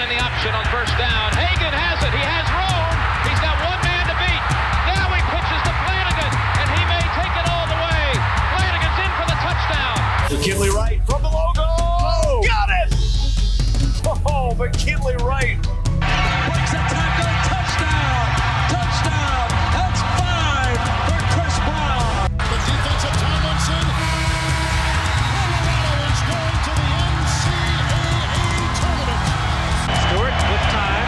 in the option on first down. Hagan has it. He has room. He's got one man to beat. Now he pitches to Flanagan, and he may take it all the way. Flanagan's in for the touchdown. McKinley Wright from the logo. Oh, got it! Oh, McKinley Wright. Breaks a tackle. Touchdown. Touchdown. That's 5 for Chris Brown. The defensive Tomlinson. Colorado is going to the NCAA tournament. Stewart with time.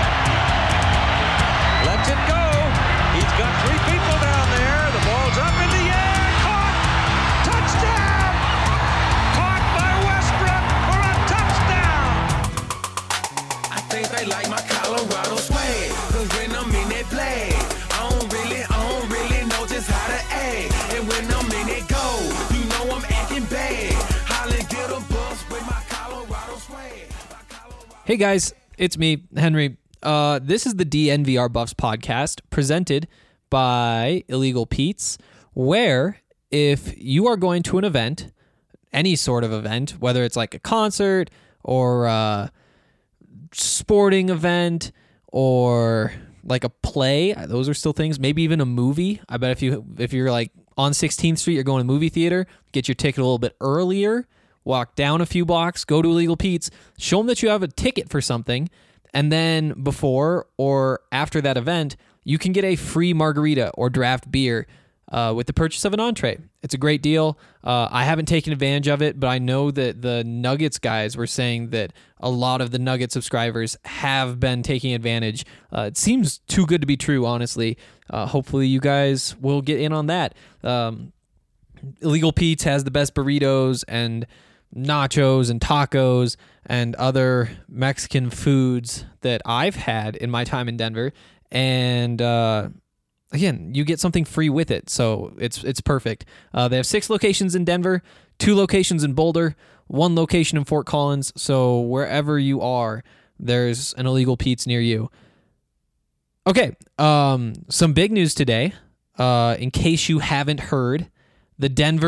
Lets it go. He's got 3 people down there. The ball's up in the air. Caught. Touchdown. Caught by Westbrook for a touchdown. I think they like my Colorado swag, 'cause when I'm in that play, I don't really know just how to act. And when I'm in it go, you know I'm acting bad. Holland get a bus with my Colorado swag. Hey guys, it's me, Henry. This is the DNVR Buffs podcast presented by Illegal Pete's, where if you are going to an event, any sort of event, whether it's like a concert or a sporting event or like a play, those are still things, maybe even a movie. I bet if you're like on 16th Street, you're going to movie theater, get your ticket a little bit earlier, walk down a few blocks, go to Illegal Pete's, show them that you have a ticket for something, and then before or after that event, you can get a free margarita or draft beer with the purchase of an entree. It's a great deal. I haven't taken advantage of it, but I know that the Nuggets guys were saying that a lot of the Nuggets subscribers have been taking advantage. It seems too good to be true, honestly. Hopefully you guys will get in on that. Illegal Pete's has the best burritos and nachos and tacos and other Mexican foods that I've had in my time in Denver. And again, you get something free with it, so it's perfect. They have 6 locations in Denver, 2 locations in Boulder, 1 location in Fort Collins, so wherever you are, there's an Illegal Pete's near you. Okay, some big news today, in case you haven't heard. The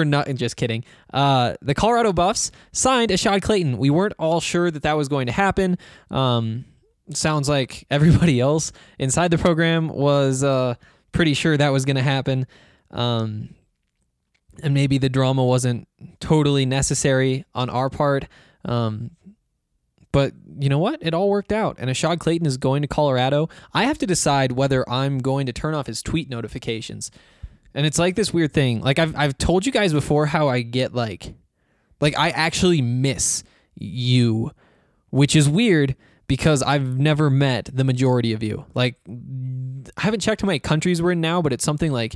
the Colorado Buffs signed Ashad Clayton. We weren't all sure that was going to happen. Sounds like everybody else inside the program was pretty sure that was going to happen. And maybe the drama wasn't totally necessary on our part. But you know what? It all worked out. And Ashad Clayton is going to Colorado. I have to decide whether I'm going to turn off his tweet notifications. And it's like this weird thing. Like I've told you guys before how I get like I actually miss you, which is weird because I've never met the majority of you. Like I haven't checked how many countries we're in now, but it's something like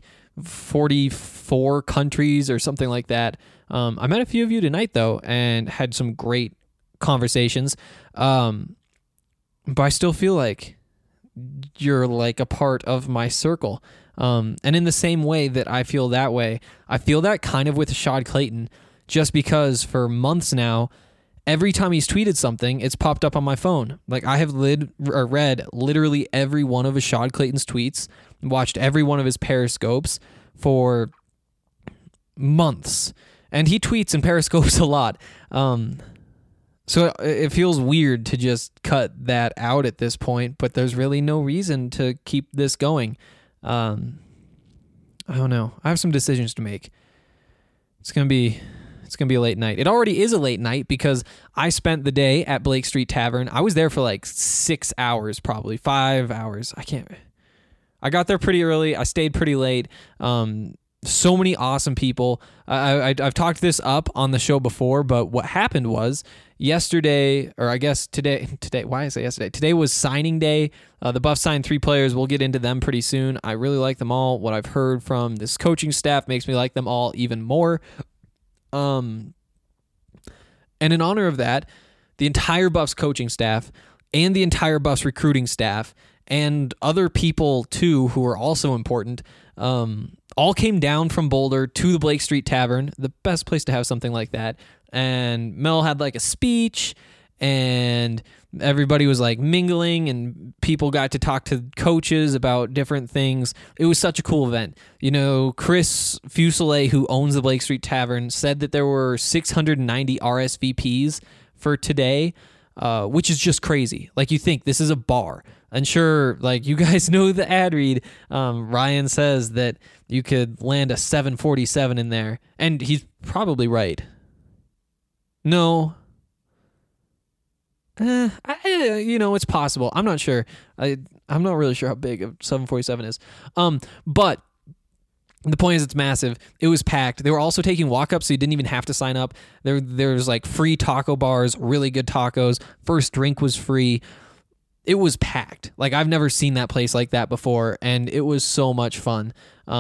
44 countries or something like that. I met a few of you tonight though and had some great conversations. But I still feel like you're like a part of my circle. And in the same way that I feel that way, I feel that kind of with Ashad Clayton, just because for months now, every time he's tweeted something, it's popped up on my phone. Like I have read literally every one of Ashad Clayton's tweets, watched every one of his periscopes for months, and he tweets and periscopes a lot. So it feels weird to just cut that out at this point, but there's really no reason to keep this going. I don't know. I have some decisions to make. It's gonna be a late night. It already is a late night because I spent the day at Blake Street Tavern. I was there for like 6 hours, probably 5 hours. I got there pretty early. I stayed pretty late. So many awesome people. I've talked this up on the show before, but what happened was yesterday, or I guess today, why is it yesterday? Today was signing day. The Buffs signed 3 players. We'll get into them pretty soon. I really like them all. What I've heard from this coaching staff makes me like them all even more. And in honor of that, the entire Buffs coaching staff and the entire Buffs recruiting staff and other people too who are also important, all came down from Boulder to the Blake Street Tavern, the best place to have something like that. And Mel had like a speech and everybody was like mingling and people got to talk to coaches about different things. It was such a cool event. You know, Chris Fuselier, who owns the Blake Street Tavern, said that there were 690 RSVPs for today. which is just crazy. Like, you think this is a bar. And sure, like, you guys know the ad read. Ryan says that you could land a 747 in there, and he's probably right. No. It's possible. I'm not sure. I'm not really sure how big a 747 is. But the point is, it's massive. It was packed. They were also taking walk-ups, so you didn't even have to sign up. There's like free taco bars, really good tacos. First drink was free. It was packed. Like, I've never seen that place like that before, and it was so much fun.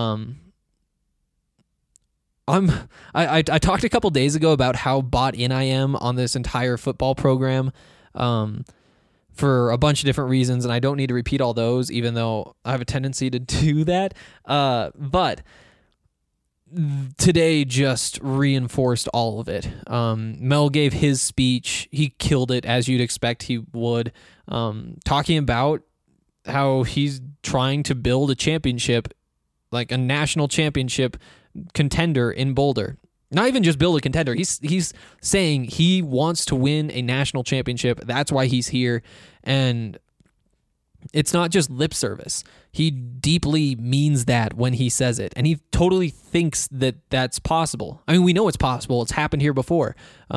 I talked a couple days ago about how bought in I am on this entire football program, for a bunch of different reasons, and I don't need to repeat all those, even though I have a tendency to do that. But today just reinforced all of it. Mel gave his speech. He killed it, as you'd expect he would, talking about how he's trying to build a championship, like a national championship contender in Boulder. Not even just build a contender. He's saying he wants to win a national championship. That's why he's here. And it's not just lip service. He deeply means that when he says it. And he totally thinks that that's possible. I mean, we know it's possible. It's happened here before.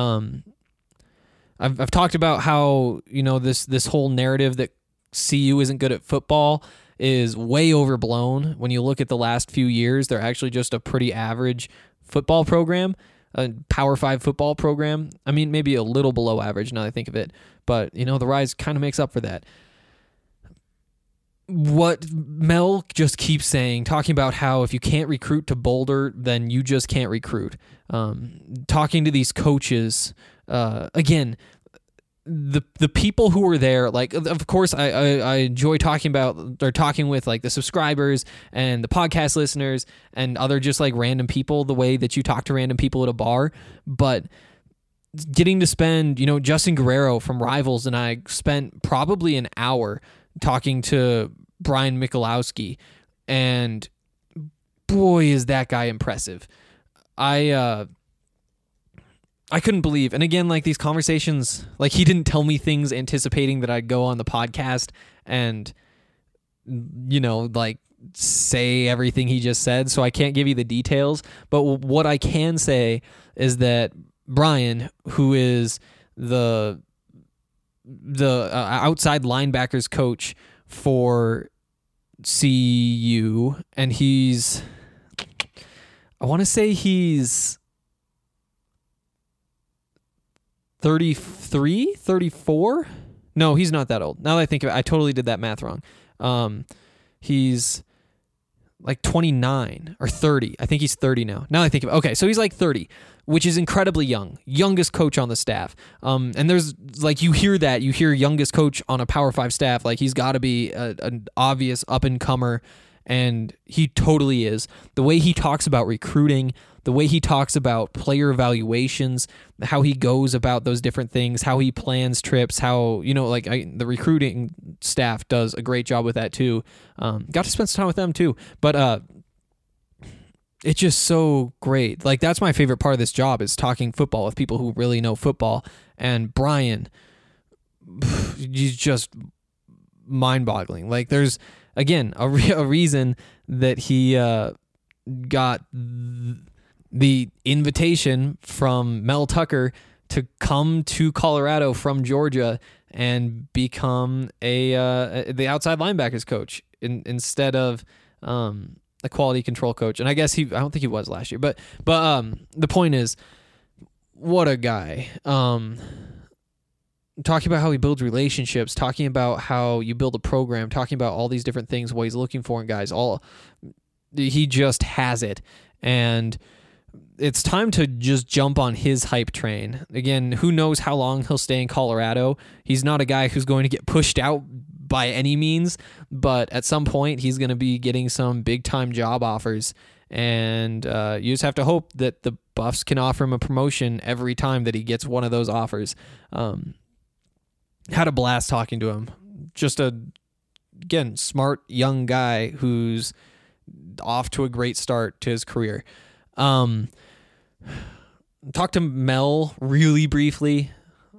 I've talked about how, this whole narrative that CU isn't good at football is way overblown. When you look at the last few years, they're actually just a pretty average football program, a Power 5 football program. I mean, maybe a little below average now that I think of it, but the rise kind of makes up for that. What Mel just keeps saying, talking about how if you can't recruit to Boulder, then you just can't recruit. Talking to these coaches, again, the people who were there, like, of course, I enjoy talking with like the subscribers and the podcast listeners and other just like random people, the way that you talk to random people at a bar. But getting to spend, Justin Guerrero from Rivals and I spent probably an hour talking to Brian Michalowski, and boy, is that guy impressive. I couldn't believe, and again, like, these conversations, like, he didn't tell me things anticipating that I'd go on the podcast and, like, say everything he just said, so I can't give you the details, but what I can say is that Brian, who is the outside linebackers coach for CU, and I want to say he's 33, 34? No, he's not that old. Now that I think of it, I totally did that math wrong. He's like 29 or 30. I think he's 30 now. Now that I think of it. Okay, so he's like 30, which is incredibly young. Youngest coach on the staff. And there's, like, you hear youngest coach on a Power 5 staff. Like, he's got to be an obvious up-and-comer, and he totally is. The way he talks about recruiting, the way he talks about player evaluations, how he goes about those different things, how he plans trips, how, the recruiting staff does a great job with that too. Got to spend some time with them too. But it's just so great. Like, that's my favorite part of this job, is talking football with people who really know football. And Brian, he's just mind-boggling. Like, there's, again, a reason that he got the invitation from Mel Tucker to come to Colorado from Georgia and become the outside linebackers coach instead of a quality control coach. And I guess I don't think he was last year, but the point is, what a guy. Talking about how he builds relationships, talking about how you build a program, talking about all these different things, what he's looking for in guys. He just has it. And it's time to just jump on his hype train. Again, who knows how long he'll stay in Colorado. He's not a guy who's going to get pushed out by any means, but at some point he's going to be getting some big-time job offers, and you just have to hope that the Buffs can offer him a promotion every time that he gets one of those offers. Had a blast talking to him. Just again, smart young guy who's off to a great start to his career. Talked to Mel really briefly.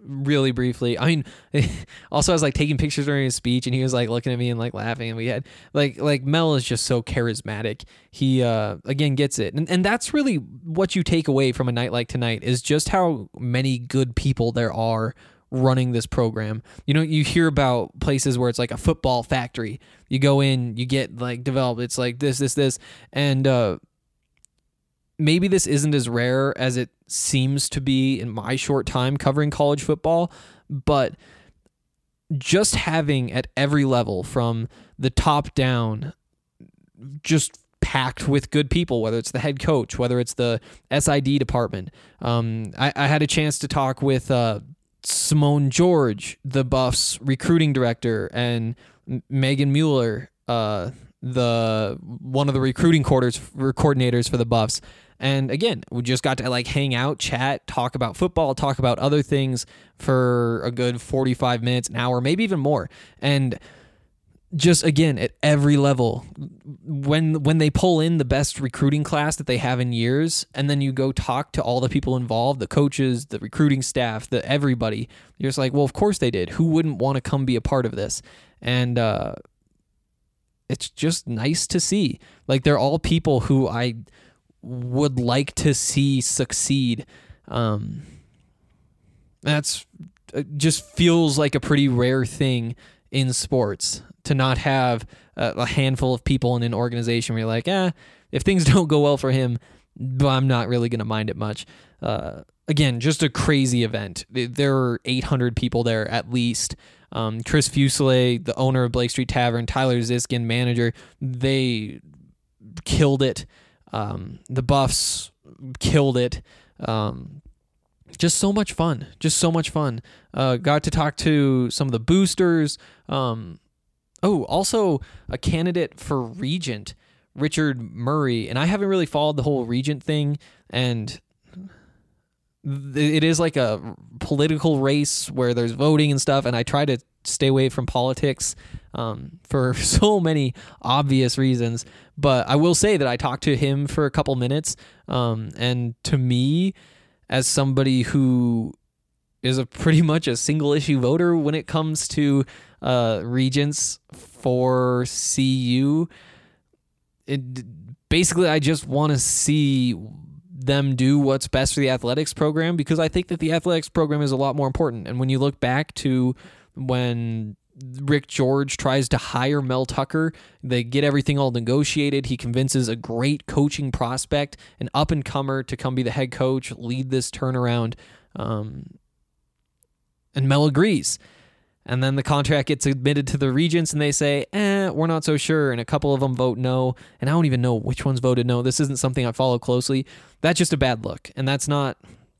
really briefly. I mean, also I was like taking pictures during his speech, and he was like looking at me and like laughing, and we had like Mel is just so charismatic. He again gets it, and that's really what you take away from a night like tonight is just how many good people there are running this program. You know, you hear about places where it's like a football factory. You go in, you get like developed. It's like this, and maybe this isn't as rare as it seems to be in my short time covering college football, but just having at every level from the top down, just packed with good people, whether it's the head coach, whether it's the SID department. I had a chance to talk with Simone George, the Buffs recruiting director, and Megan Mueller, one of the recruiting coordinators for the Buffs. And again, we just got to like hang out, chat, talk about football, talk about other things for a good 45 minutes, an hour, maybe even more. And just again, at every level, when they pull in the best recruiting class that they have in years, and then you go talk to all the people involved, the coaches, the recruiting staff, everybody, you're just like, well, of course they did. Who wouldn't want to come be a part of this? And it's just nice to see. Like, they're all people who I would like to see succeed. That's just feels like a pretty rare thing in sports to not have a handful of people in an organization where you're like, if things don't go well for him, I'm not really going to mind it much. Again, just a crazy event. There are 800 people there at least. Chris Fuselier, the owner of Blake Street Tavern, Tyler Ziskin, manager, they killed it. The Buffs killed it. Just so much fun. Got to talk to some of the boosters. Also a candidate for regent, Richard Murray. And I haven't really followed the whole regent thing. And it is like a political race where there's voting and stuff. And I try to stay away from politics for so many obvious reasons. But I will say that I talked to him for a couple minutes. And to me, as somebody who is pretty much a single issue voter when it comes to regents for CU, basically I just want to see them do what's best for the athletics program, because I think that the athletics program is a lot more important. And when you look back to when Rick George tries to hire Mel Tucker, they get everything all negotiated. He convinces a great coaching prospect, an up-and-comer, to come be the head coach, lead this turnaround. And Mel agrees. And then the contract gets admitted to the regents, and they say, we're not so sure. And a couple of them vote no. And I don't even know which ones voted no. This isn't something I follow closely. That's just a bad look. And that's not...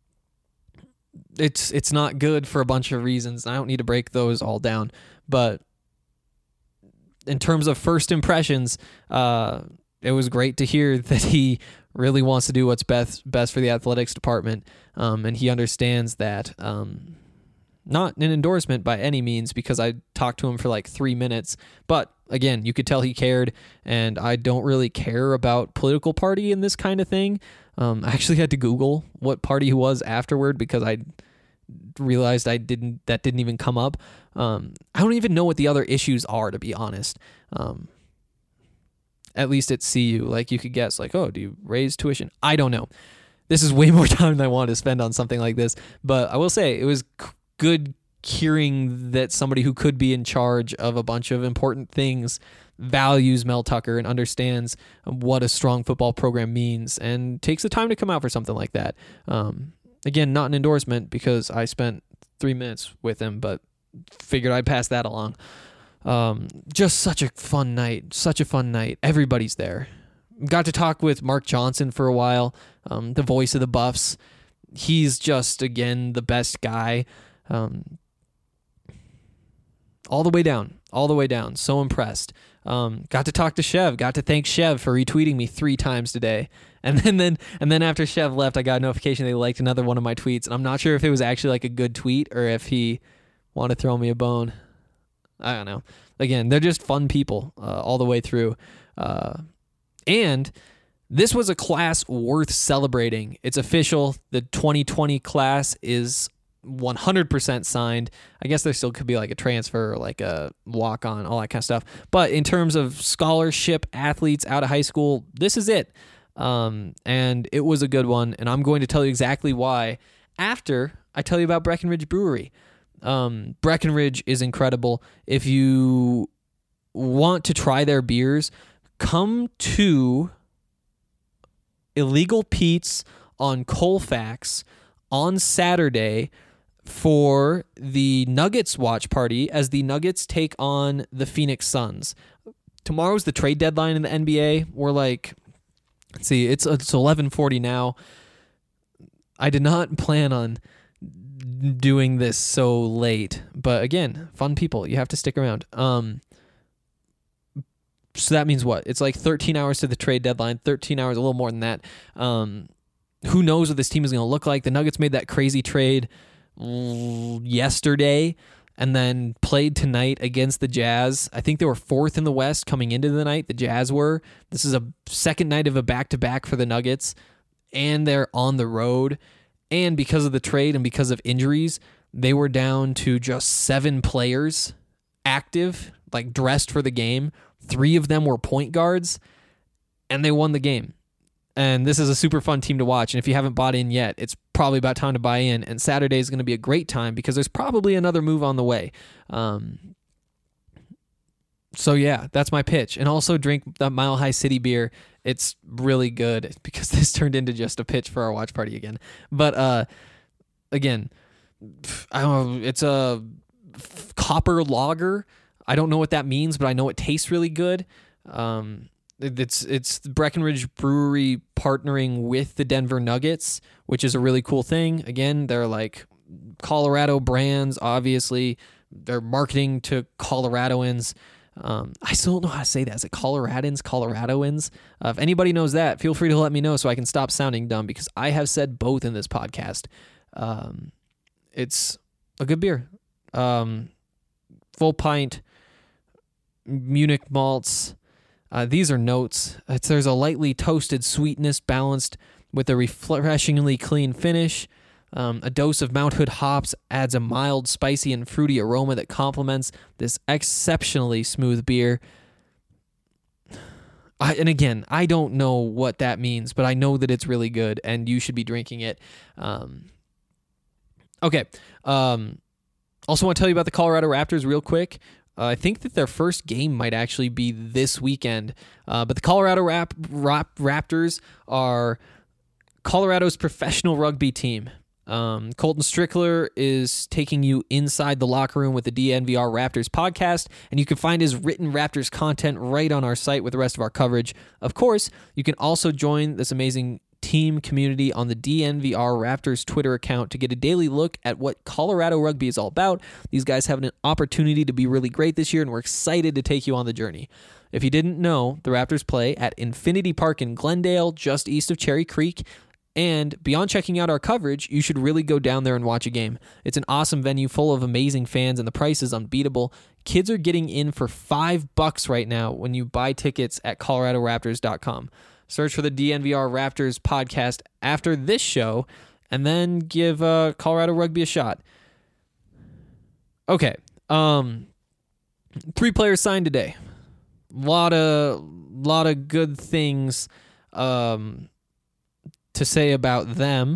It's not good for a bunch of reasons. I don't need to break those all down. But in terms of first impressions, it was great to hear that he really wants to do what's best for the athletics department. And he understands that... not an endorsement by any means, because I talked to him for like 3 minutes. But again, you could tell he cared, and I don't really care about political party and this kind of thing. I actually had to Google what party he was afterward, because I realized that didn't even come up. I don't even know what the other issues are, to be honest. At least at CU, like you could guess, like, oh, do you raise tuition? I don't know. This is way more time than I want to spend on something like this. But I will say it was good hearing that somebody who could be in charge of a bunch of important things values Mel Tucker and understands what a strong football program means and takes the time to come out for something like that. Again, not an endorsement, because I spent 3 minutes with him, but figured I'd pass that along. Just such a fun night. Everybody's there. Got to talk with Mark Johnson for a while, the voice of the Buffs. He's just, again, the best guy. All the way down. So impressed. Got to talk to Chev. Got to thank Chev for retweeting me 3 times today. And then after Chev left, I got a notification they liked another one of my tweets. And I'm not sure if it was actually like a good tweet or if he wanted to throw me a bone. I don't know. Again, they're just fun people all the way through. And this was a class worth celebrating. It's official. The 2020 class is 100% signed. I guess there still could be like a transfer or like a walk-on, all that kind of stuff. But in terms of scholarship athletes out of high school, this is it. And it was a good one, and I'm going to tell you exactly why after I tell you about Breckenridge Brewery. Breckenridge is incredible. If you want to try their beers, come to Illegal Pete's on Colfax on Saturday for the Nuggets watch party as the Nuggets take on the Phoenix Suns. Tomorrow's the trade deadline in the NBA. We're like, let's see, it's 11:40 now. I did not plan on doing this so late, but again, fun people. You have to stick around. So that means what? It's like 13 hours to the trade deadline, 13 hours, a little more than that. Who knows what this team is going to look like? The Nuggets made that crazy trade yesterday and then played tonight against the Jazz. I think they were 4th in the West coming into the night. The Jazz were. This is a second night of a back-to-back for the Nuggets, and they're on the road. And because of the trade and because of injuries, they were down to just 7 players active, like dressed for the game. 3 of them were point guards, and they won the game. And this is a super fun team to watch. And if you haven't bought in yet, it's probably about time to buy in. And Saturday is going to be a great time because there's probably another move on the way. So yeah, that's my pitch. And also drink the Mile High City beer. It's really good because this turned into just a pitch for our watch party again. But again, I don't know. It's a copper lager. I don't know what that means, but I know it tastes really good. It's Breckenridge Brewery partnering with the Denver Nuggets, which is a really cool thing. Again, they're like Colorado brands, obviously. They're marketing to Coloradoans. I still don't know how to say that. Is it Coloradoans? If anybody knows that, feel free to let me know so I can stop sounding dumb because I have said both in this podcast. It's a good beer. Full pint, Munich malts. These are notes. There's a lightly toasted sweetness balanced with a refreshingly clean finish. A dose of Mount Hood hops adds a mild, spicy, and fruity aroma that complements this exceptionally smooth beer. And again, I don't know what that means, but I know that it's really good, and you should be drinking it. Okay. Also want to tell you about the Colorado Raptors real quick. I think that their first game might actually be this weekend. But the Colorado Raptors are Colorado's professional rugby team. Colton Strickler is taking you inside the locker room with the DNVR Raptors podcast, and you can find his written Raptors content right on our site with the rest of our coverage. Of course, you can also join this amazing team community on the DNVR Raptors Twitter account to get a daily look at what Colorado rugby is all about. These guys have an opportunity to be really great this year, and we're excited to take you on the journey. If you didn't know, the Raptors play at Infinity Park in Glendale, just east of Cherry Creek. And beyond checking out our coverage, you should really go down there and watch a game. It's an awesome venue full of amazing fans, and the price is unbeatable. Kids are getting in for $5 right now when you buy tickets at coloradoraptors.com. Search for the DNVR Raptors podcast after this show, and then give Colorado Rugby a shot. Okay. 3 players signed today. Lot of good things to say about them.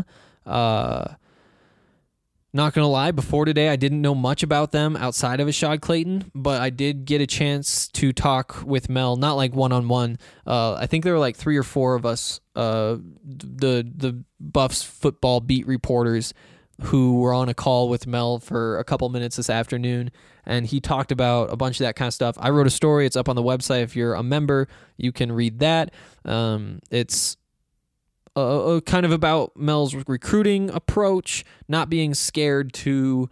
Not going to lie, before today, I didn't know much about them outside of Ashad Clayton, but I did get a chance to talk with Mel, not like one-on-one. I think there were like 3 or 4 of us, the Buffs football beat reporters, who were on a call with Mel for a couple minutes this afternoon, and he talked about a bunch of that kind of stuff. I wrote a story. It's up on the website. If you're a member, you can read that. It's kind of about Mel's recruiting approach, not being scared to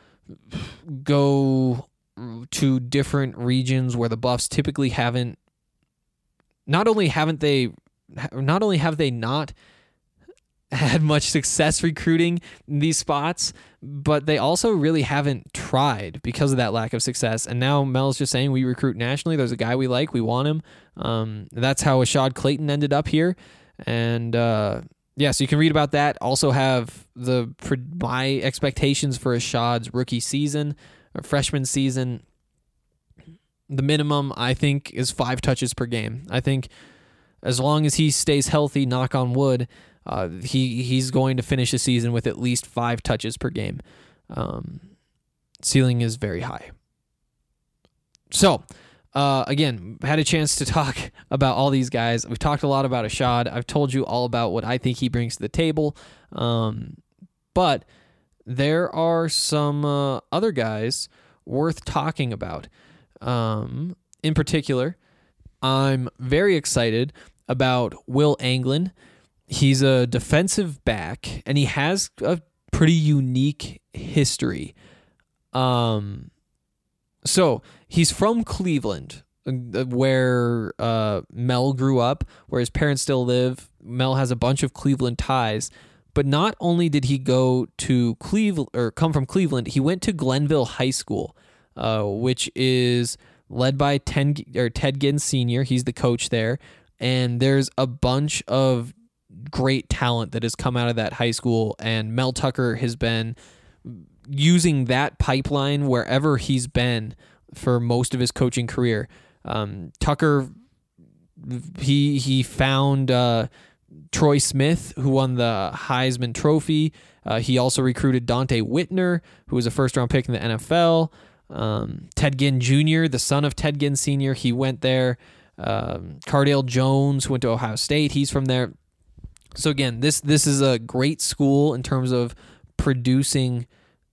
go to different regions where the Buffs typically haven't. Not only have they not had much success recruiting in these spots, but they also really haven't tried because of that lack of success. And now Mel's just saying, we recruit nationally. There's a guy we like. We want him. That's how Ashad Clayton ended up here. And yeah, so you can read about that. Also have my expectations for Ashad's rookie season or freshman season. The minimum, I think, is 5 touches per game. I think as long as he stays healthy, knock on wood, he's going to finish the season with at least 5 touches per game. Ceiling is very high. So, again, had a chance to talk about all these guys. We've talked a lot about Ashad. I've told you all about what I think he brings to the table. But there are some other guys worth talking about. In particular, I'm very excited about Will Anglin. He's a defensive back, and he has a pretty unique history. So he's from Cleveland, where Mel grew up, where his parents still live. Mel has a bunch of Cleveland ties. But not only did he go to Cleveland or come from Cleveland, he went to Glenville High School, which is led by Ted Ginn Sr. He's the coach there. And there's a bunch of great talent that has come out of that high school. And Mel Tucker has been using that pipeline wherever he's been for most of his coaching career. Tucker, he found Troy Smith, who won the Heisman Trophy. He also recruited Dante Whitner, who was a first-round pick in the NFL. Ted Ginn Jr., the son of Ted Ginn Sr., he went there. Cardale Jones went to Ohio State. He's from there. So again, this is a great school in terms of producing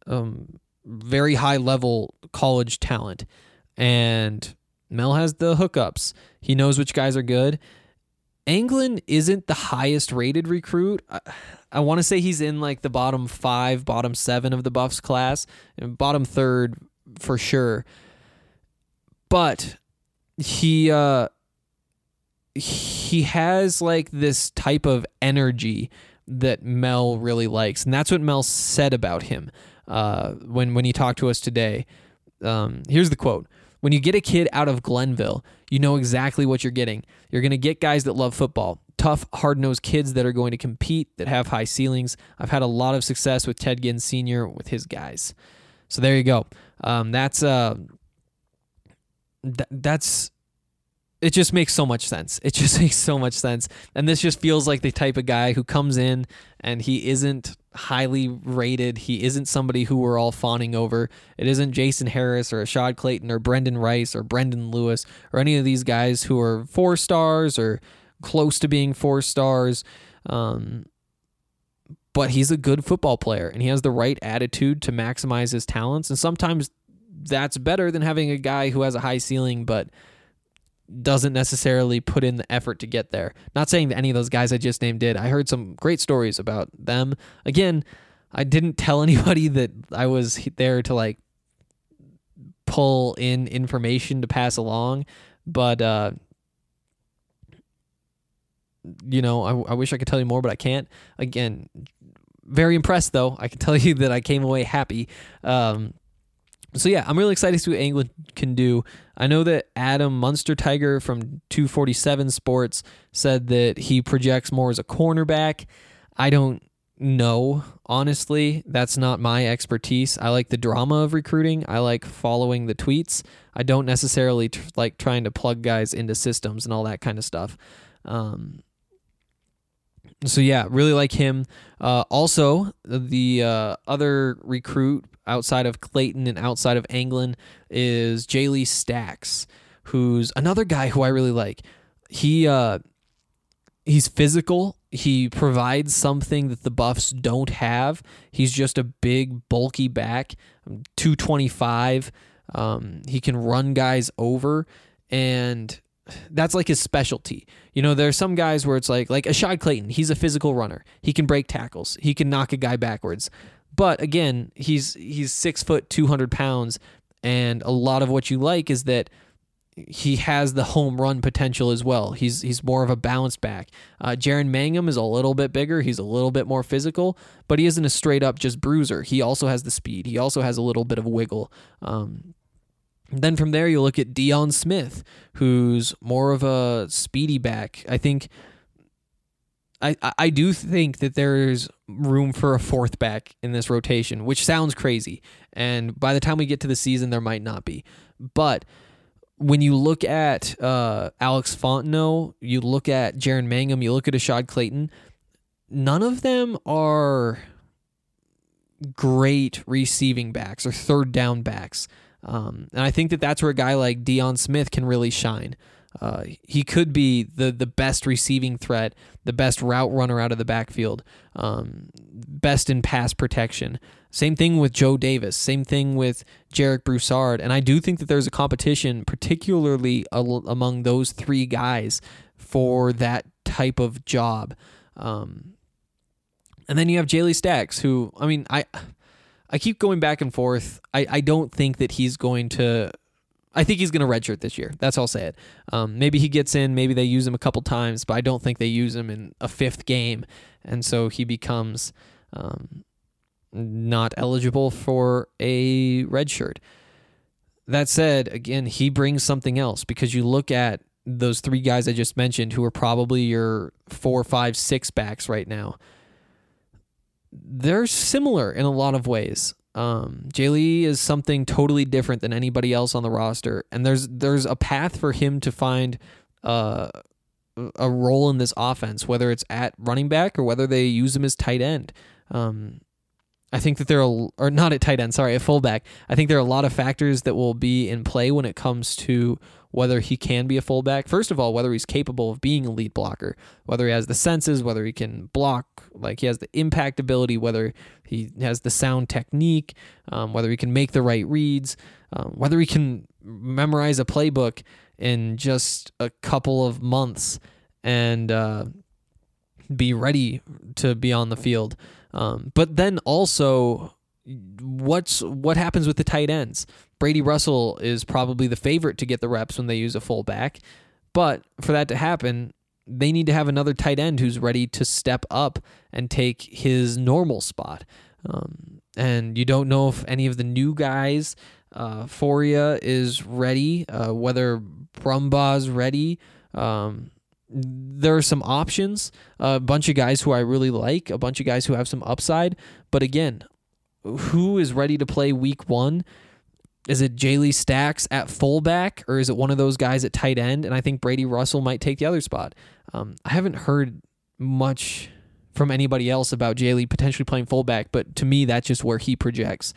very high-level college talent. And Mel has the hookups. He knows which guys are good. Anglin isn't the highest-rated recruit. I want to say he's in like the bottom 5, bottom 7 of the Buffs class, and bottom 3rd for sure. But he has like this type of energy that Mel really likes, and that's what Mel said about him when he talked to us today. Here's the quote. When you get a kid out of Glenville, you know exactly what you're getting. You're going to get guys that love football, tough, hard-nosed kids that are going to compete, that have high ceilings. I've had a lot of success with Ted Ginn Sr. with his guys. So there you go. It just makes so much sense. It just makes so much sense. And this just feels like the type of guy who comes in and he isn't highly rated. He isn't somebody who we're all fawning over. It isn't Jason Harris or Ashad Clayton or Brendan Rice or Brendan Lewis or any of these guys who are 4 stars or close to being 4 stars. But he's a good football player and he has the right attitude to maximize his talents. And sometimes that's better than having a guy who has a high ceiling but doesn't necessarily put in the effort to get there. Not saying that any of those guys I just named did. I heard some great stories about them. Again, I didn't tell anybody that I was there to like pull in information to pass along, but I wish I could tell you more, but I can't. Again, very impressed though. I can tell you that I came away happy. So yeah, I'm really excited to see what Anglin can do. I know that Adam Munster-Tiger from 247 Sports said that he projects more as a cornerback. I don't know, honestly. That's not my expertise. I like the drama of recruiting. I like following the tweets. I don't necessarily like trying to plug guys into systems and all that kind of stuff. So yeah, really like him. Also, the other recruit outside of Clayton and outside of Anglin is Jaylee Stacks, who's another guy who I really like. He's physical. He provides something that the Buffs don't have. He's just a big, bulky back, 225. He can run guys over, and that's like his specialty. You know, there are some guys where it's like Ashad Clayton, he's a physical runner. He can break tackles. He can knock a guy backwards. But again, he's 6 foot, 200 pounds, and a lot of what you like is that he has the home run potential as well. He's more of a balanced back. Jaron Mangum is a little bit bigger. He's a little bit more physical, but he isn't a straight up just bruiser. He also has the speed. He also has a little bit of wiggle. Then from there, you look at Deion Smith, who's more of a speedy back. I think I do think that there's room for a fourth back in this rotation, which sounds crazy. And by the time we get to the season, there might not be. But when you look at Alex Fontenot, you look at Jaron Mangum, you look at Ashad Clayton, none of them are great receiving backs or third down backs. And I think that that's where a guy like Deion Smith can really shine. He could be the best receiving threat, the best route runner out of the backfield, best in pass protection. Same thing with Joe Davis. Same thing with Jarek Broussard. And I do think that there's a competition, particularly among those three guys, for that type of job. And then you have Jaylee Stacks, who, I mean, I keep going back and forth. I don't think that he's going to... I think he's going to redshirt this year. That's how I'll say it. Maybe he gets in. Maybe they use him a couple times, but I don't think they use him in a fifth game. And so he becomes not eligible for a redshirt. That said, again, he brings something else, because you look at those three guys I just mentioned who are probably your 4, 5, 6 backs right now. They're similar in a lot of ways. Jaylee is something totally different than anybody else on the roster, and there's a path for him to find a role in this offense, whether it's at running back or whether they use him as tight end. I think that or not at tight end, sorry, at fullback. I think there are a lot of factors that will be in play when it comes to whether he can be a fullback. First of all, whether he's capable of being a lead blocker, whether he has the senses, whether he can block, like he has the impact ability, whether he has the sound technique, whether he can make the right reads, whether he can memorize a playbook in just a couple of months and be ready to be on the field. But then also, what happens with the tight ends? Brady Russell is probably the favorite to get the reps when they use a fullback, but for that to happen, they need to have another tight end who's ready to step up and take his normal spot. And you don't know if any of the new guys, Foria is ready, whether Brumbaugh's ready. There are some options, a bunch of guys who I really like, a bunch of guys who have some upside. But again, who is ready to play week 1? Is it Jaylee Stacks at fullback, or is it one of those guys at tight end? And I think Brady Russell might take the other spot. I haven't heard much from anybody else about Jaylee potentially playing fullback, but to me, that's just where he projects.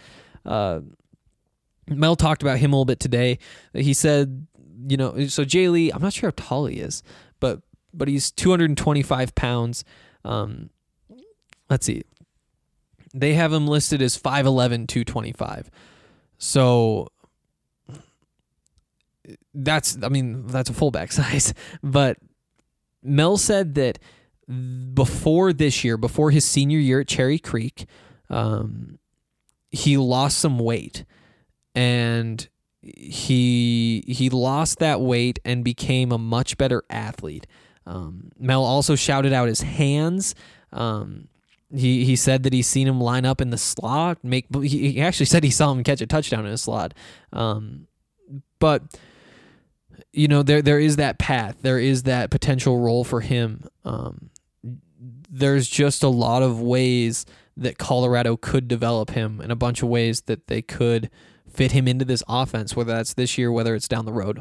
Mel talked about him a little bit today. He said, so Jaylee, I'm not sure how tall he is, but he's 225 pounds. Let's see. They have him listed as 5'11", 225. So that's a fullback size. But Mel said that before his senior year at Cherry Creek, he lost some weight, and he lost that weight and became a much better athlete. Mel also shouted out his hands. He said that he's seen him line up in the slot. He actually said he saw him catch a touchdown in a slot. But there is that path. There is that potential role for him. There's just a lot of ways that Colorado could develop him, and a bunch of ways that they could fit him into this offense, whether that's this year, whether it's down the road.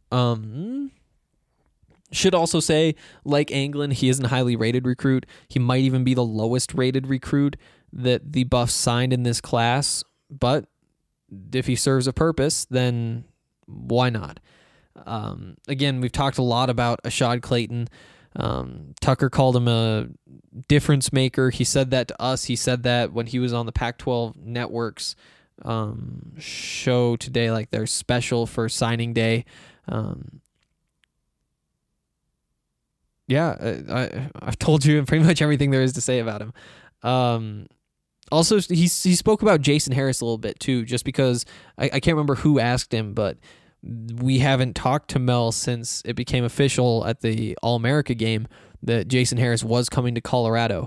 Should also say, like Anglin, he isn't a highly rated recruit. He might even be the lowest rated recruit that the Buffs signed in this class. But if he serves a purpose, then why not? Again, we've talked a lot about Ashad Clayton. Tucker called him a difference maker. He said that to us. He said that when he was on the Pac-12 Network's show today, like their special for signing day. I've told you pretty much everything there is to say about him. Also, he spoke about Jason Harris a little bit too, just because I can't remember who asked him, but we haven't talked to Mel since it became official at the All-America game that Jason Harris was coming to Colorado.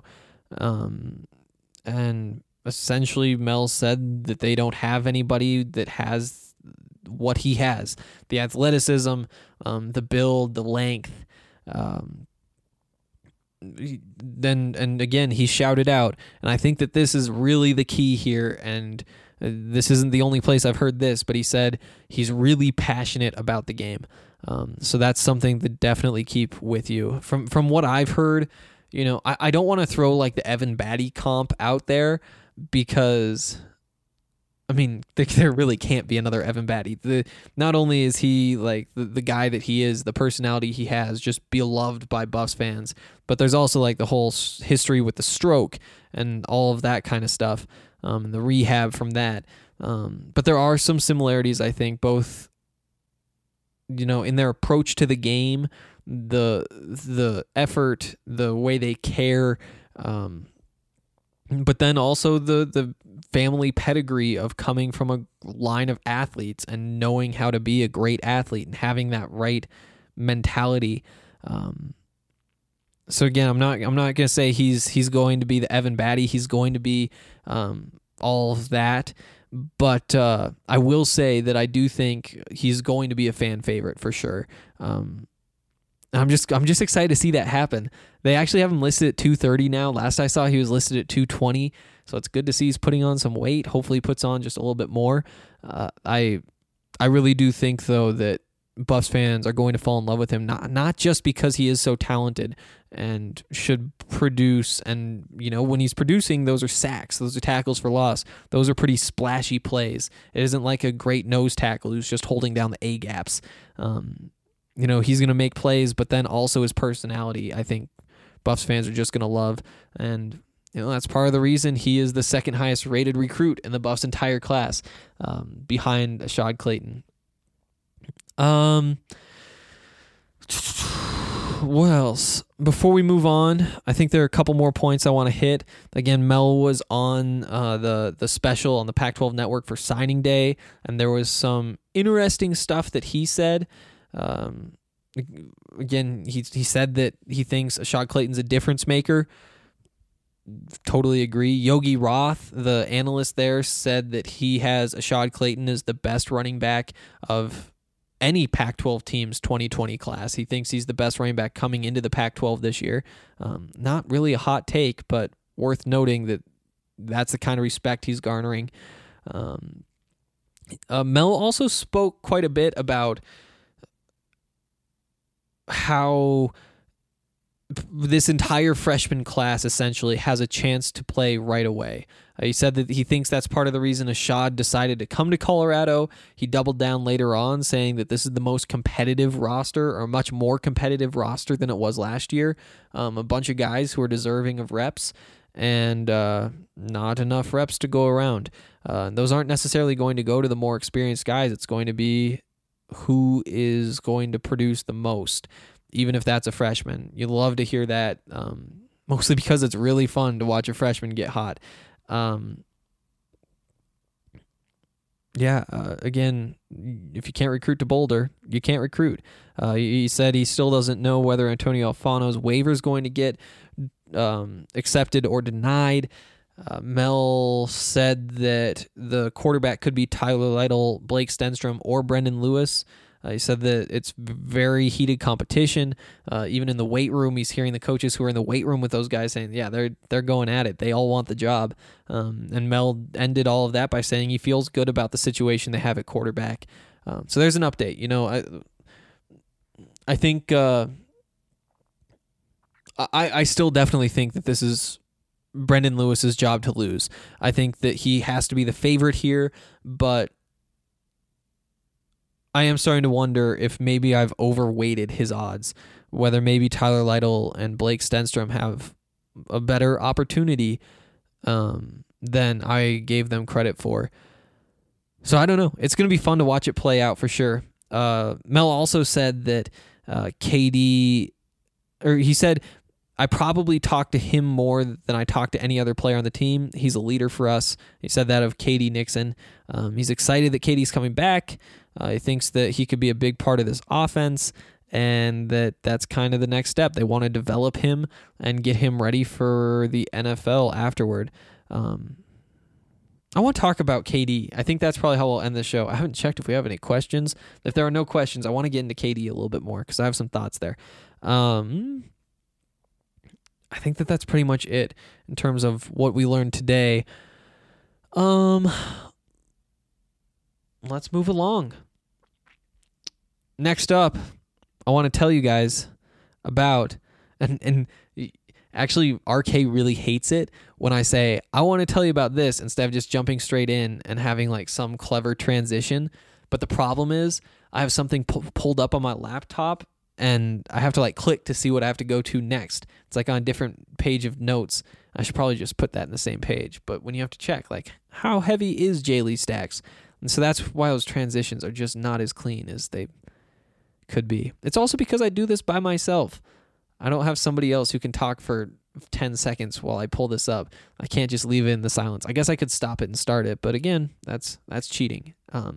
And essentially Mel said that they don't have anybody that has what he has: the athleticism, the build, the length. then, and again, he shouted out, and I think that this is really the key here, and this isn't the only place I've heard this, but he said he's really passionate about the game. So that's something to definitely keep with you. From what I've heard, you know, I don't want to throw like the Evan Batty comp out there, because I mean, there really can't be another Evan Batty. Not only is he like the guy that he is, the personality he has, just beloved by Buffs fans, but there's also like the whole history with the stroke and all of that kind of stuff, and the rehab from that. But there are some similarities, I think, both, you know, in their approach to the game, the effort, the way they care, but then also the family pedigree of coming from a line of athletes and knowing how to be a great athlete and having that right mentality. So again, I'm not going to say he's going to be the Evan Batty. He's going to be all of that. But I will say that I do think he's going to be a fan favorite for sure. I'm just excited to see that happen. They actually have him listed at 230 now. Last I saw, he was listed at 220. So it's good to see he's putting on some weight. Hopefully he puts on just a little bit more. I really do think, though, that Buffs fans are going to fall in love with him, not just because he is so talented and should produce. And, you know, when he's producing, those are sacks. Those are tackles for loss. Those are pretty splashy plays. It isn't like a great nose tackle who's just holding down the A-gaps. You know, he's going to make plays, but then also his personality, I think Buffs fans are just going to love. And, you know, that's part of the reason he is the second highest rated recruit in the Buffs' entire class, behind Ashad Clayton. What else? Before we move on, I think there are a couple more points I want to hit. Again, Mel was on the special on the Pac-12 Network for signing day, and there was some interesting stuff that he said. Again, he said that he thinks Ashad Clayton's a difference maker. Totally agree. Yogi Roth, the analyst there, said that he has Ashad Clayton as the best running back of any Pac-12 team's 2020 class. He thinks he's the best running back coming into the Pac-12 this year. Not really a hot take, but worth noting that that's the kind of respect he's garnering. Mel also spoke quite a bit about how this entire freshman class essentially has a chance to play right away. He said that he thinks that's part of the reason Ashad decided to come to Colorado. He doubled down later on, saying that this is the most competitive roster, or a much more competitive roster than it was last year. A bunch of guys who are deserving of reps, and not enough reps to go around. Those aren't necessarily going to go to the more experienced guys. It's going to be who is going to produce the most, even if that's a freshman. You love to hear that, mostly because it's really fun to watch a freshman get hot. Again, if you can't recruit to Boulder, you can't recruit. He said he still doesn't know whether Antonio Alfano's waiver is going to get accepted or denied. Mel said that the quarterback could be Tyler Lytle, Blake Stenstrom, or Brendan Lewis. He said that it's very heated competition. Even in the weight room, he's hearing the coaches who are in the weight room with those guys saying, yeah, they're going at it. They all want the job. And Mel ended all of that by saying he feels good about the situation they have at quarterback. So there's an update. You know, I think I still definitely think that this is Brendan Lewis's job to lose. I think that he has to be the favorite here, but I am starting to wonder if maybe I've overweighted his odds, whether maybe Tyler Lytle and Blake Stenstrom have a better opportunity than I gave them credit for. So I don't know. It's going to be fun to watch it play out for sure. Mel also said that he said, I probably talked to him more than I talked to any other player on the team. He's a leader for us. He said that of KD Nixon. He's excited that KD's coming back. He thinks that he could be a big part of this offense, and that's kind of the next step. They want to develop him and get him ready for the NFL afterward. I want to talk about KD. I think that's probably how we'll end the show. I haven't checked if we have any questions. If there are no questions, I want to get into KD a little bit more because I have some thoughts there. I think that's pretty much it in terms of what we learned today. Let's move along. Next up, I want to tell you guys about, and actually RK really hates it when I say, I want to tell you about this instead of just jumping straight in and having like some clever transition. But the problem is I have something pulled up on my laptop and I have to like click to see what I have to go to next. It's like on a different page of notes. I should probably just put that in the same page. But when you have to check, like, how heavy is J. Lee Stacks? And so that's why those transitions are just not as clean as they could be. It's also because I do this by myself. I don't have somebody else who can talk for 10 seconds while I pull this up. I can't just leave it in the silence. I guess I could stop it and start it, but again, that's cheating.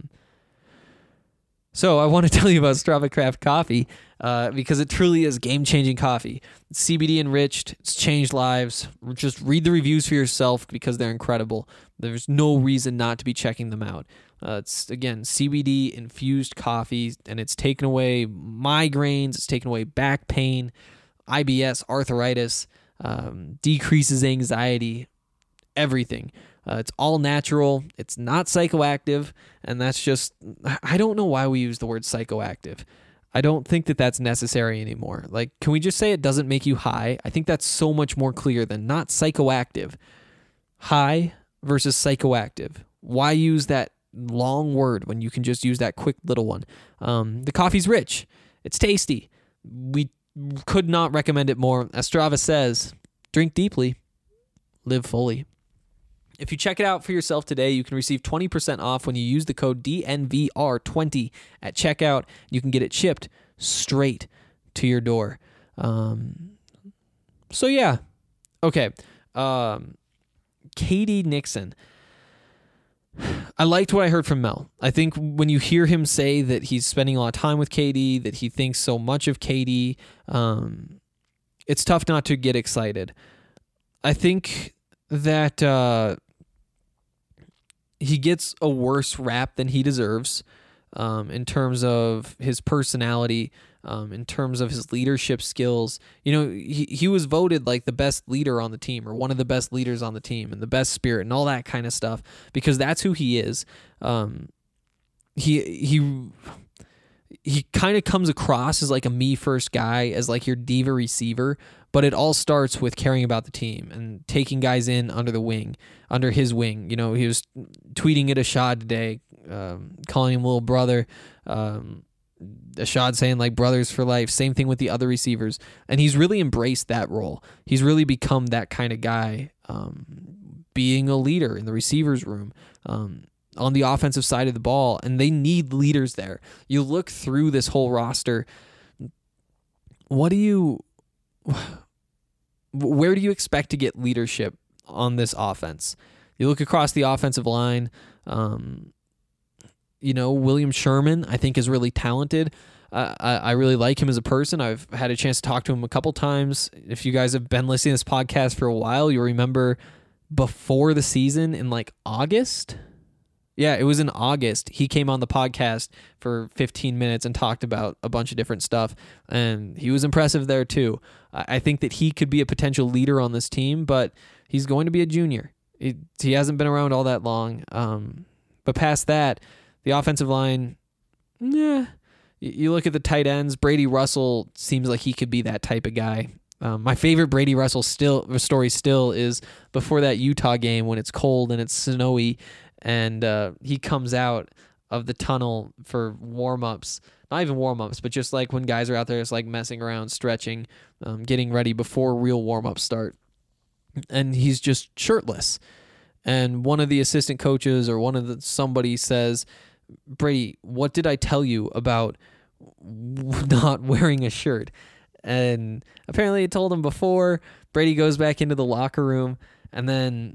So I want to tell you about Strava Craft Coffee because it truly is game-changing coffee. It's CBD enriched. It's changed lives. Just read the reviews for yourself because they're incredible. There's no reason not to be checking them out. It's, again, CBD infused coffee, and it's taken away migraines. It's taken away back pain, IBS, arthritis, decreases anxiety, everything. It's all natural. It's not psychoactive. And that's just, I don't know why we use the word psychoactive. I don't think that that's necessary anymore. Like, can we just say it doesn't make you high? I think that's so much more clear than not psychoactive. High versus psychoactive. Why use that long word when you can just use that quick little one? The coffee's rich. It's tasty. We could not recommend it more. As Strava says, drink deeply, live fully. If you check it out for yourself today, you can receive 20% off when you use the code DNVR20 at checkout. You can get it shipped straight to your door. So yeah. Okay. KD Nixon. I liked what I heard from Mel. I think when you hear him say that he's spending a lot of time with KD, that he thinks so much of KD, it's tough not to get excited. I think that he gets a worse rap than he deserves in terms of his personality, in terms of his leadership skills. You know, he was voted like the best leader on the team, or one of the best leaders on the team, and the best spirit and all that kind of stuff, because that's who he is. He kind of comes across as like a me first guy, as like your diva receiver, but it all starts with caring about the team and taking guys in under his wing. You know, he was tweeting at Ashad today, calling him little brother. Ashad saying like brothers for life. Same thing with the other receivers. And he's really embraced that role. He's really become that kind of guy, being a leader in the receivers room, on the offensive side of the ball. And they need leaders there. You look through this whole roster. Where do you expect to get leadership on this offense? You look across the offensive line. William Sherman, I think, is really talented. I really like him as a person. I've had a chance to talk to him a couple times. If you guys have been listening to this podcast for a while, you'll remember before the season in like August. Yeah, it was in August. He came on the podcast for 15 minutes and talked about a bunch of different stuff, and he was impressive there too. I think that he could be a potential leader on this team, but he's going to be a junior. He hasn't been around all that long. But past that, the offensive line, yeah. You look at the tight ends. Brady Russell seems like he could be that type of guy. My favorite Brady Russell story still is before that Utah game when it's cold and it's snowy, and he comes out of the tunnel for warm-ups. Not even warm-ups, but just like when guys are out there just like messing around, stretching, getting ready before real warm-ups start. And he's just shirtless. And one of the assistant coaches or somebody says, Brady, what did I tell you about not wearing a shirt? And apparently it told him before. Brady goes back into the locker room, and then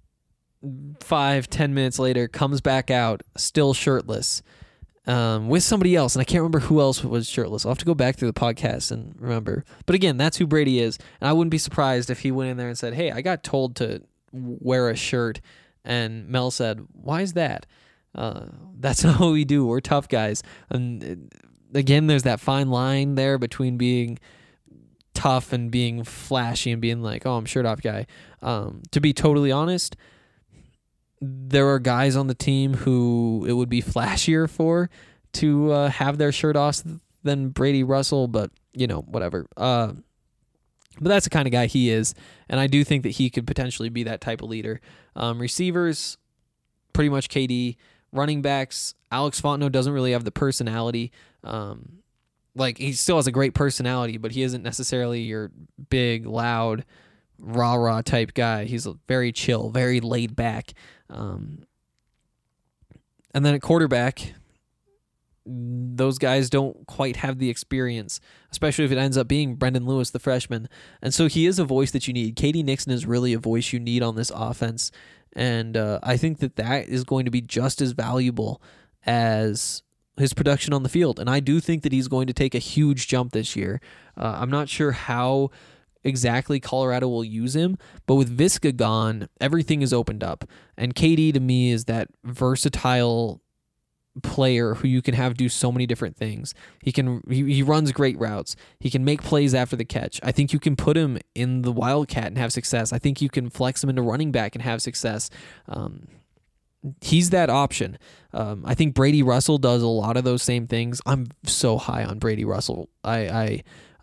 5-10 minutes later comes back out still shirtless, with somebody else, and I can't remember who else was shirtless. I'll have to go back through the podcast and remember. But again, that's who Brady is, and I wouldn't be surprised if he went in there and said, hey, I got told to wear a shirt, and Mel said, why is that? That's not what we do. We're tough guys. And again, there's that fine line there between being tough and being flashy and being like, oh, I'm shirt off guy. To be totally honest, there are guys on the team who it would be flashier for to have their shirt off than Brady Russell, but whatever. But that's the kind of guy he is, and I do think that he could potentially be that type of leader. Receivers, pretty much KD. Running backs, Alex Fontenot doesn't really have the personality. He still has a great personality, but he isn't necessarily your big, loud, rah-rah type guy. He's very chill, very laid back. And then at quarterback, those guys don't quite have the experience, especially if it ends up being Brendan Lewis, the freshman. And so he is a voice that you need. K.D. Nixon is really a voice you need on this offense. And I think that is going to be just as valuable as his production on the field. And I do think that he's going to take a huge jump this year. I'm not sure how exactly Colorado will use him, but with Visca gone, everything is opened up. And KD to me is that versatile player who you can have do so many different things. He runs great routes. He can make plays after the catch. I think you can put him in the Wildcat and have success. I think you can flex him into running back and have success. He's that option. I think Brady Russell does a lot of those same things. I'm so high on Brady Russell. I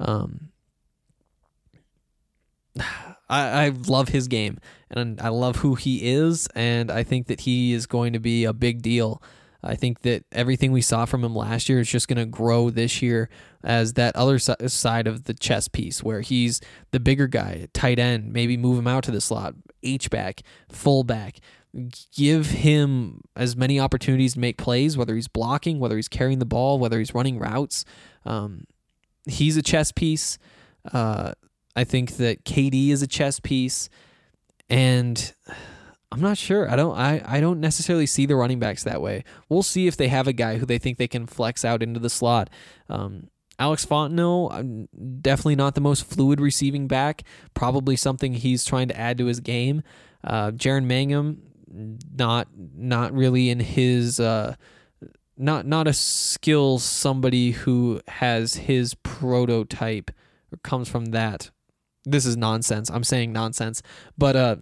love his game, and I love who he is, and I think that he is going to be a big deal. I think that everything we saw from him last year is just going to grow this year as that other side of the chess piece where he's the bigger guy, tight end, maybe move him out to the slot, H-back, fullback. Give him as many opportunities to make plays, whether he's blocking, whether he's carrying the ball, whether he's running routes. He's a chess piece. I think that KD is a chess piece, and I'm not sure. I don't necessarily see the running backs that way. We'll see if they have a guy who they think they can flex out into the slot. Alex Fontenot, definitely not the most fluid receiving back. Probably something he's trying to add to his game. Jaron Mangum, not really in his not a skill somebody who has his prototype or comes from that. This is nonsense. I'm saying nonsense, but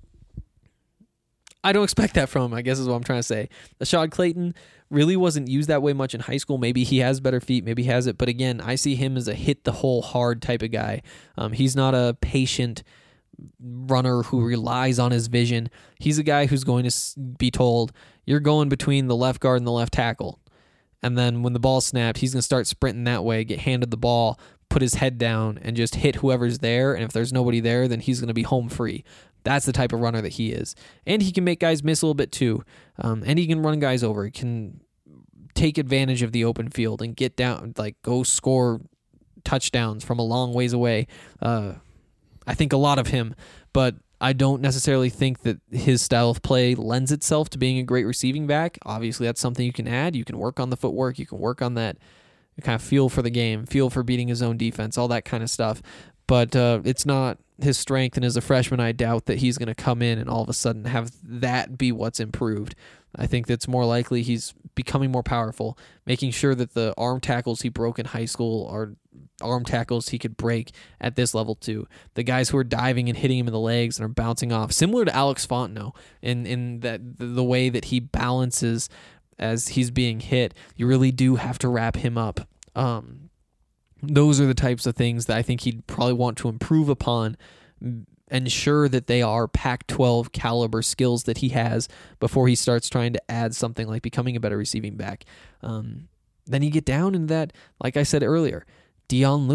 I don't expect that from him, I guess is what I'm trying to say. Rashad Clayton really wasn't used that way much in high school. Maybe he has better feet, maybe he has it, but again, I see him as a hit the hole hard type of guy. He's not a patient runner who relies on his vision. He's a guy who's going to be told, you're going between the left guard and the left tackle. And then when the ball snapped, he's going to start sprinting that way, get handed the ball, put his head down, and just hit whoever's there. And if there's nobody there, then he's going to be home free. That's the type of runner that he is. And he can make guys miss a little bit too. And he can run guys over. He can take advantage of the open field and get down, go score touchdowns from a long ways away. I think a lot of him, but I don't necessarily think that his style of play lends itself to being a great receiving back. Obviously, that's something you can add. You can work on the footwork. You can work on that kind of feel for the game, feel for beating his own defense, all that kind of stuff. But it's not his strength, and as a freshman, I doubt that he's going to come in and all of a sudden have that be what's improved. I think that's more likely he's becoming more powerful, making sure that the arm tackles he broke in high school are arm tackles he could break at this level too. The guys who are diving and hitting him in the legs and are bouncing off, similar to Alex Fontenot in that the way that he balances as he's being hit, you really do have to wrap him up. Those are the types of things that I think he'd probably want to improve upon, ensure that they are Pac-12 caliber skills that he has before he starts trying to add something like becoming a better receiving back. Then you get down into that, like I said earlier, Deion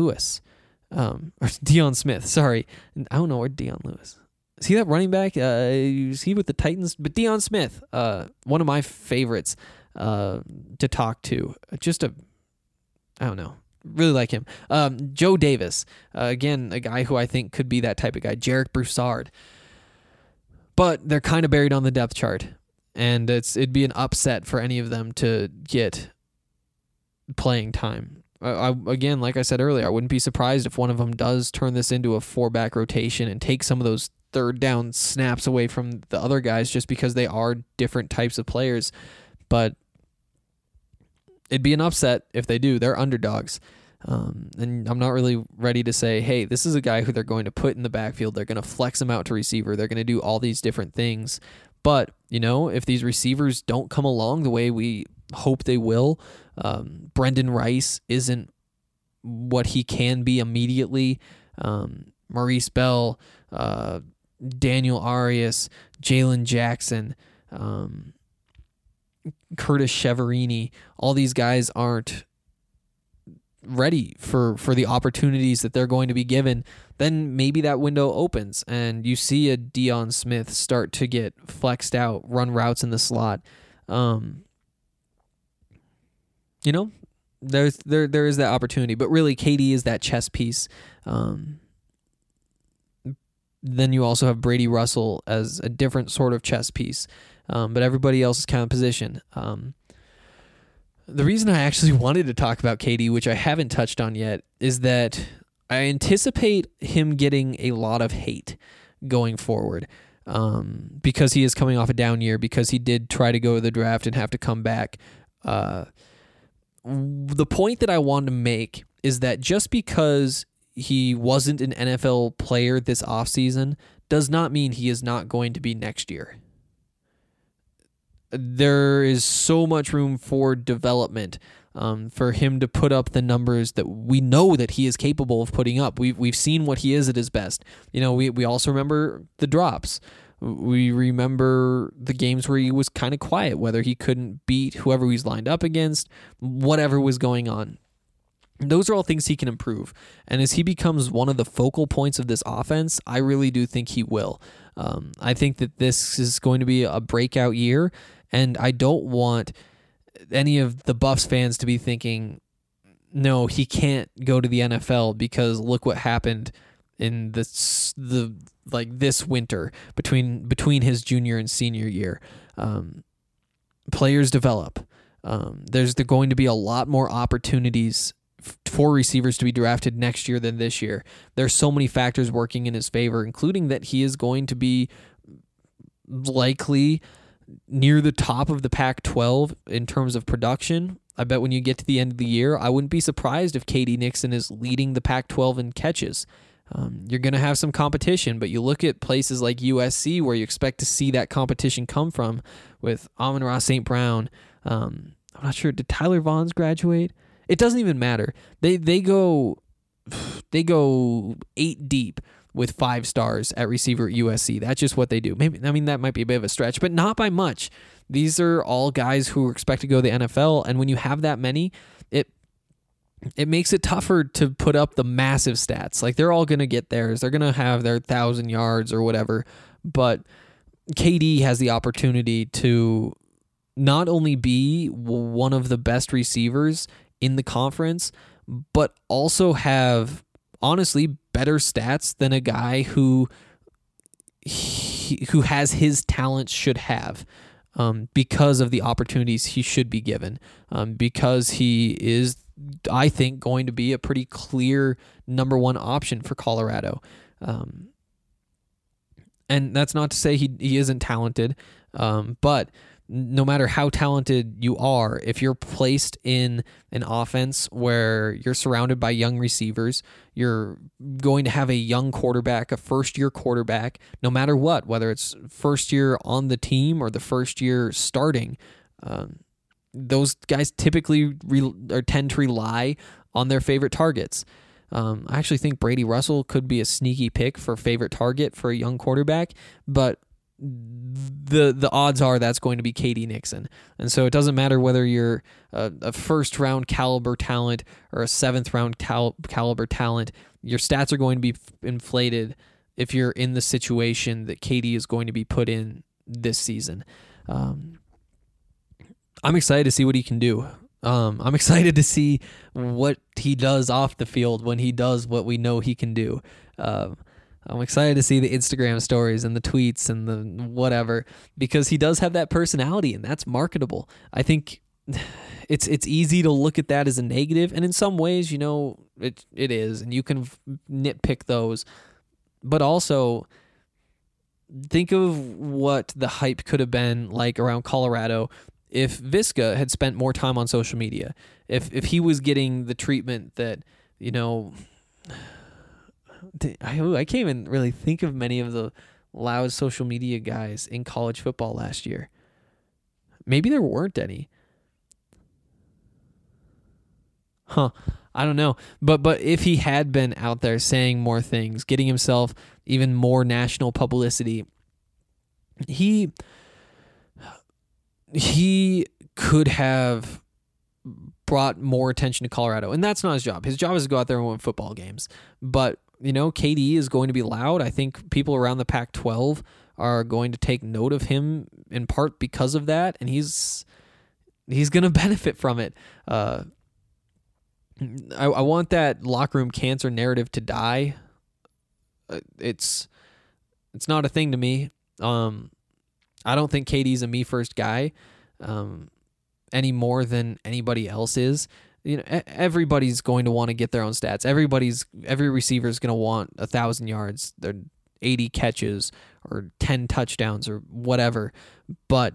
Smith. Sorry, I don't know where Deion Lewis. Is he that running back? Is he with the Titans? But Deion Smith, one of my favorites to talk to. I don't know. Really like him. Joe Davis, again, a guy who I think could be that type of guy. Jarek Broussard. But they're kind of buried on the depth chart, and it'd be an upset for any of them to get playing time. Again, like I said earlier, I wouldn't be surprised if one of them does turn this into a 4-back rotation and take some of those third down snaps away from the other guys just because they are different types of players. But it'd be an upset if they do. They're underdogs. And I'm not really ready to say, hey, this is a guy who they're going to put in the backfield. They're going to flex him out to receiver. They're going to do all these different things. But, if these receivers don't come along the way we hope they will, Brendan Rice isn't what he can be immediately. Maurice Bell, Daniel Arias, Jalen Jackson, Curtis Cheverini, all these guys aren't ready for the opportunities that they're going to be given. Then maybe that window opens and you see a Deion Smith start to get flexed out, run routes in the slot. There is that opportunity, but really KD is that chess piece. Then you also have Brady Russell as a different sort of chess piece, but everybody else is kind of positioned. The reason I actually wanted to talk about KD, which I haven't touched on yet, is that I anticipate him getting a lot of hate going forward, because he is coming off a down year, because he did try to go to the draft and have to come back. The point that I wanted to make is that just because he wasn't an NFL player this offseason does not mean he is not going to be next year. There is so much room for development, for him to put up the numbers that we know that he is capable of putting up. We've seen what he is at his best. We also remember the drops. We remember the games where he was kind of quiet, whether he couldn't beat whoever he's lined up against, whatever was going on. Those are all things he can improve. And as he becomes one of the focal points of this offense, I really do think he will. I think that this is going to be a breakout year, and I don't want any of the Buffs fans to be thinking, no, he can't go to the NFL because look what happened in this winter between his junior and senior year. Players develop. There's going to be a lot more opportunities for receivers to be drafted next year than this year. There's so many factors working in his favor, including that he is going to be likely near the top of the Pac-12 in terms of production. I bet when you get to the end of the year, I wouldn't be surprised if KD Nixon is leading the Pac-12 in catches. You're going to have some competition, but you look at places like USC where you expect to see that competition come from with Amon-Ra St. Brown. I'm not sure. Did Tyler Vaughns graduate? It doesn't even matter. They go 8 deep with 5 stars at receiver at USC. That's just what they do. That might be a bit of a stretch, but not by much. These are all guys who expect to go to the NFL, and when you have that many, it makes it tougher to put up the massive stats. Like, they're all going to get theirs. They're going to have their 1,000 yards or whatever, but KD has the opportunity to not only be one of the best receivers in the conference, but also have, honestly, better stats than a guy who has his talents should have, because of the opportunities he should be given, because he is, I think, going to be a pretty clear number one option for Colorado. And that's not to say he isn't talented, but no matter how talented you are, if you're placed in an offense where you're surrounded by young receivers, you're going to have a young quarterback, a first-year quarterback, no matter what, whether it's first year on the team or the first year starting. Those guys typically tend to rely on their favorite targets. I actually think Brady Russell could be a sneaky pick for favorite target for a young quarterback, but the odds are that's going to be KD Nixon. And so it doesn't matter whether you're a first-round caliber talent or a seventh-round caliber talent. Your stats are going to be inflated if you're in the situation that KD is going to be put in this season. I'm excited to see what he can do. I'm excited to see what he does off the field when he does what we know he can do. I'm excited to see the Instagram stories and the tweets and the whatever, because he does have that personality, and that's marketable. I think it's easy to look at that as a negative, and in some ways, it is, and you can nitpick those. But also, think of what the hype could have been like around Colorado if Visca had spent more time on social media, if he was getting the treatment that, I can't even really think of many of the loud social media guys in college football last year. Maybe there weren't any. I don't know. But if he had been out there saying more things, getting himself even more national publicity, he could have brought more attention to Colorado. And that's not his job. His job is to go out there and win football games. But, KD is going to be loud. I think people around the Pac-12 are going to take note of him in part because of that, and he's going to benefit from it. I want that locker room cancer narrative to die. It's not a thing to me. I don't think KD's a me first guy any more than anybody else is. Everybody's going to want to get their own stats. Every receiver is going to want 1,000 yards, their 80 catches, or 10 touchdowns, or whatever. But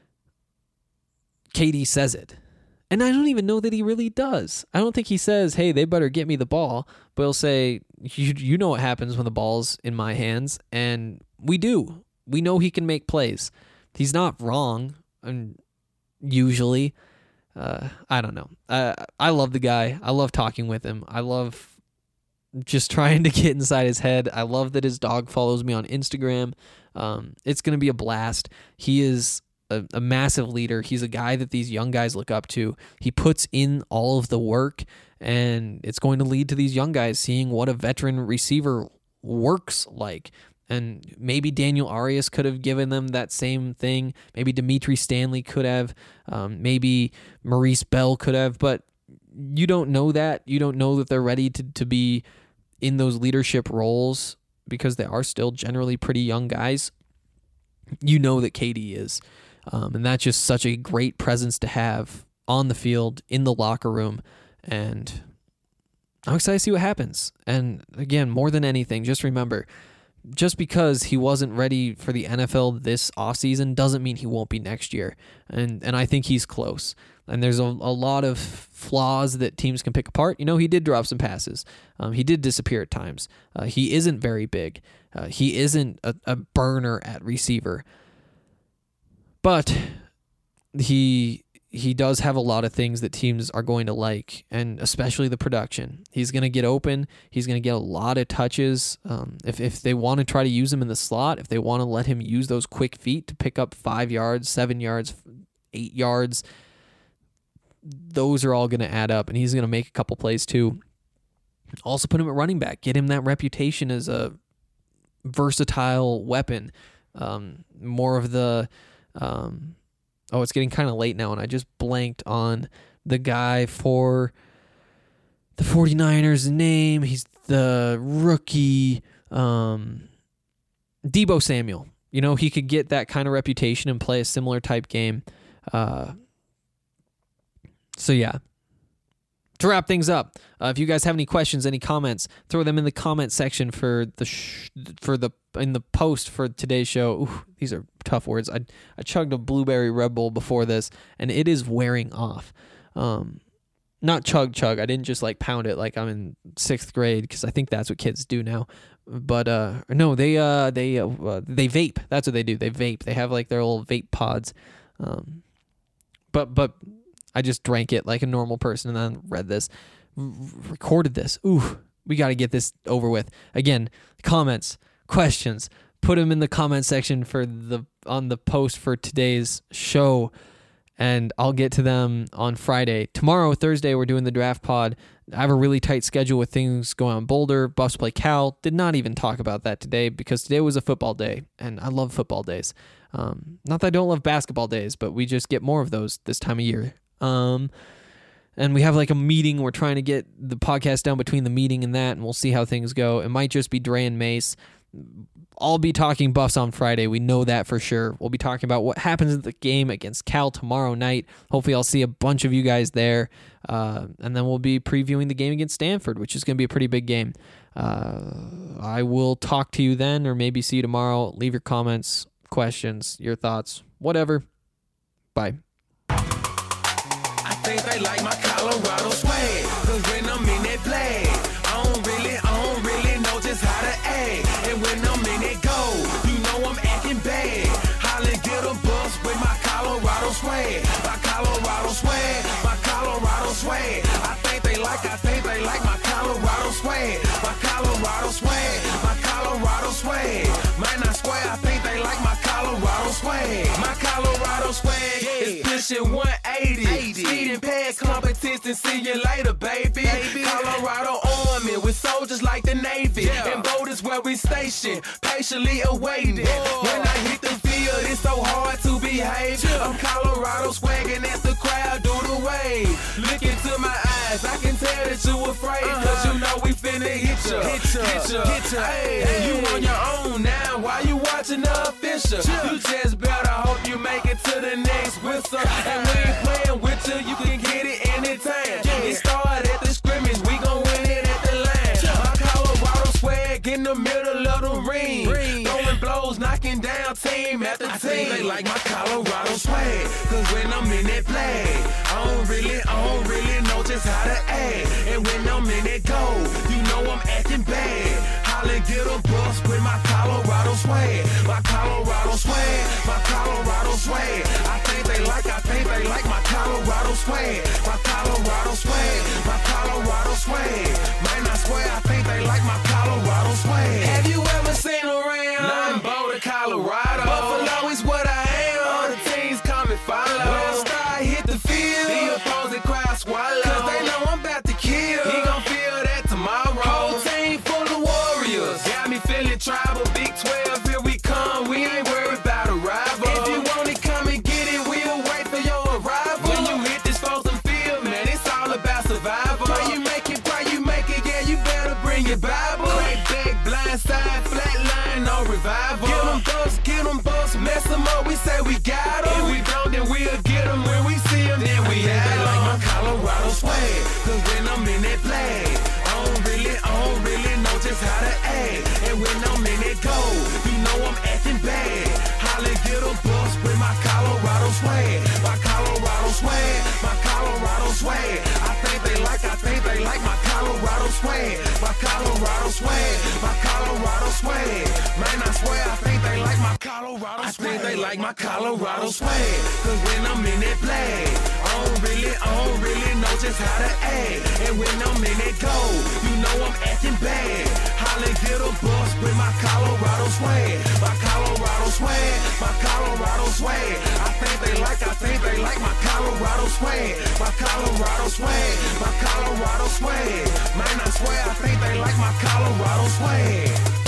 KD says it. And I don't even know that he really does. I don't think he says, hey, they better get me the ball. But he'll say, you know what happens when the ball's in my hands. And we do. We know he can make plays. He's not wrong, and usually. I don't know. I love the guy. I love talking with him. I love just trying to get inside his head. I love that his dog follows me on Instagram. It's going to be a blast. He is a massive leader. He's a guy that these young guys look up to. He puts in all of the work, and it's going to lead to these young guys seeing what a veteran receiver works like. And maybe Daniel Arias could have given them that same thing. Maybe Dimitri Stanley could have. Maybe Maurice Bell could have. But you don't know that. You don't know that they're ready to be in those leadership roles because they are still generally pretty young guys. You know that KD is. And that's just such a great presence to have on the field, in the locker room. And I'm excited to see what happens. And again, more than anything, just remember, just because he wasn't ready for the NFL this offseason doesn't mean he won't be next year. And I think he's close. And there's a lot of flaws that teams can pick apart. He did drop some passes. He did disappear at times. He isn't very big. He isn't a burner at receiver. But he does have a lot of things that teams are going to like, and especially the production. He's going to get open. He's going to get a lot of touches. If they want to try to use him in the slot, if they want to let him use those quick feet to pick up 5 yards, 7 yards, 8 yards, those are all going to add up, and he's going to make a couple plays too. Also put him at running back. Get him that reputation as a versatile weapon. More of the... it's getting kind of late now, and I just blanked on the guy for the 49ers' name. He's the rookie, Deebo Samuel. He could get that kind of reputation and play a similar type game. So yeah. To wrap things up, if you guys have any questions, any comments, throw them in the comment section in the post for today's show. Ooh, these are tough words. I chugged a blueberry Red Bull before this, and it is wearing off. Not chug. I didn't just pound it like I'm in 6th grade, because I think that's what kids do now. But no, they vape. That's what they do. They vape. They have their little vape pods. But I just drank it like a normal person and then read this, recorded this. Ooh, we got to get this over with. Again, comments, questions, put them in the comment section on the post for today's show, and I'll get to them on Friday. Tomorrow, Thursday, we're doing the draft pod. I have a really tight schedule with things going on. Boulder, Buffs play Cal. Did not even talk about that today because today was a football day, and I love football days. Not that I don't love basketball days, but we just get more of those this time of year. And we have a meeting. We're trying to get the podcast down between the meeting and that, and we'll see how things go. It might just be Dre and Mace. I'll be talking Buffs on Friday. We know that for sure. We'll be talking about what happens in the game against Cal tomorrow night. Hopefully I'll see a bunch of you guys there. And then we'll be previewing the game against Stanford, which is going to be a pretty big game. I will talk to you then, or maybe see you tomorrow. Leave your comments, questions, your thoughts, whatever. Bye. they like my Colorado swag. Cause when I'm in that flag, I don't really know just how to act. And when I'm in that gold, you know I'm acting bad. Holla, get a bus with my Colorado swag. My Colorado swag, my Colorado swag. I think they like my Colorado swag. My Colorado swag, my Colorado swag. Man, I swear, I think they like my Colorado swag. My Colorado swag is pushing 180. Speeding past competition, see you later, baby. Colorado Army with soldiers like the Navy. And boat is where we station, patiently awaiting. When I hit the field, it's so hard to behave. I'm Colorado swagging as the crowd do the wave. Look into my eyes, I can tell that you afraid. Cause you know we finna hit ya. Hey, you on your own now, why you watching the official? You just better hope you make it to the next whistle. And we ain't playing with you can get it anytime. It started at the scrimmage, we gon' win it at the line. My Colorado swag in the middle of the ring. Throwing blows, knocking down team after team. I think they like my Colorado swag. Cause when I'm in that flag, I don't really know just how to act. And when I'm in that gold, you know I'm acting bad. Holla, get a bus with my Colorado swag. My Colorado swag, my Colorado swag. I think they like my Colorado swag. My Colorado swag, my Colorado swag. Man, I swear, I think they like my Colorado swag. Have you ever seen around? I'm Boulder, Colorado. Buffalo is what I am. All the teams come and follow. When I start hit the field, the opposing crowd swallow. Cause they know I'm about to kill. He gon' feel that tomorrow. Whole team full of warriors. Got me feeling tribal. Big 12, here we come. We ain't worried about a rival. If you want it, come and get it. We'll wait for your arrival. When you hit this frozen field, man, it's all about survival. Pray you make it, yeah, you better bring your Bible. Crack back, blind side, flat line, no revival. Get them bucks, mess them up, we say we got them. If we don't, then we'll get them. When we see them, then we have them. They like my Colorado swag, cause when I'm in that flag, I don't really know just how to act. And when I'm in that gold, you know I'm acting bad. Holla, get a bus with my Colorado swag. My Colorado swag, my Colorado swag. I think they like my Colorado swag. My Colorado swag, my Colorado swag. Man, I swear, I think they like my Colorado swag. I think they like my Colorado swag. Cause when I'm in that flag, I don't really know just how to act. And when I'm in that gold, you know I'm acting bad. Holla, get a bus with my Colorado swag. My Colorado swag, my Colorado swag. I think they like my Colorado swag. My Colorado swag, my Colorado swag. Man, I swear, I think they like my Colorado swag.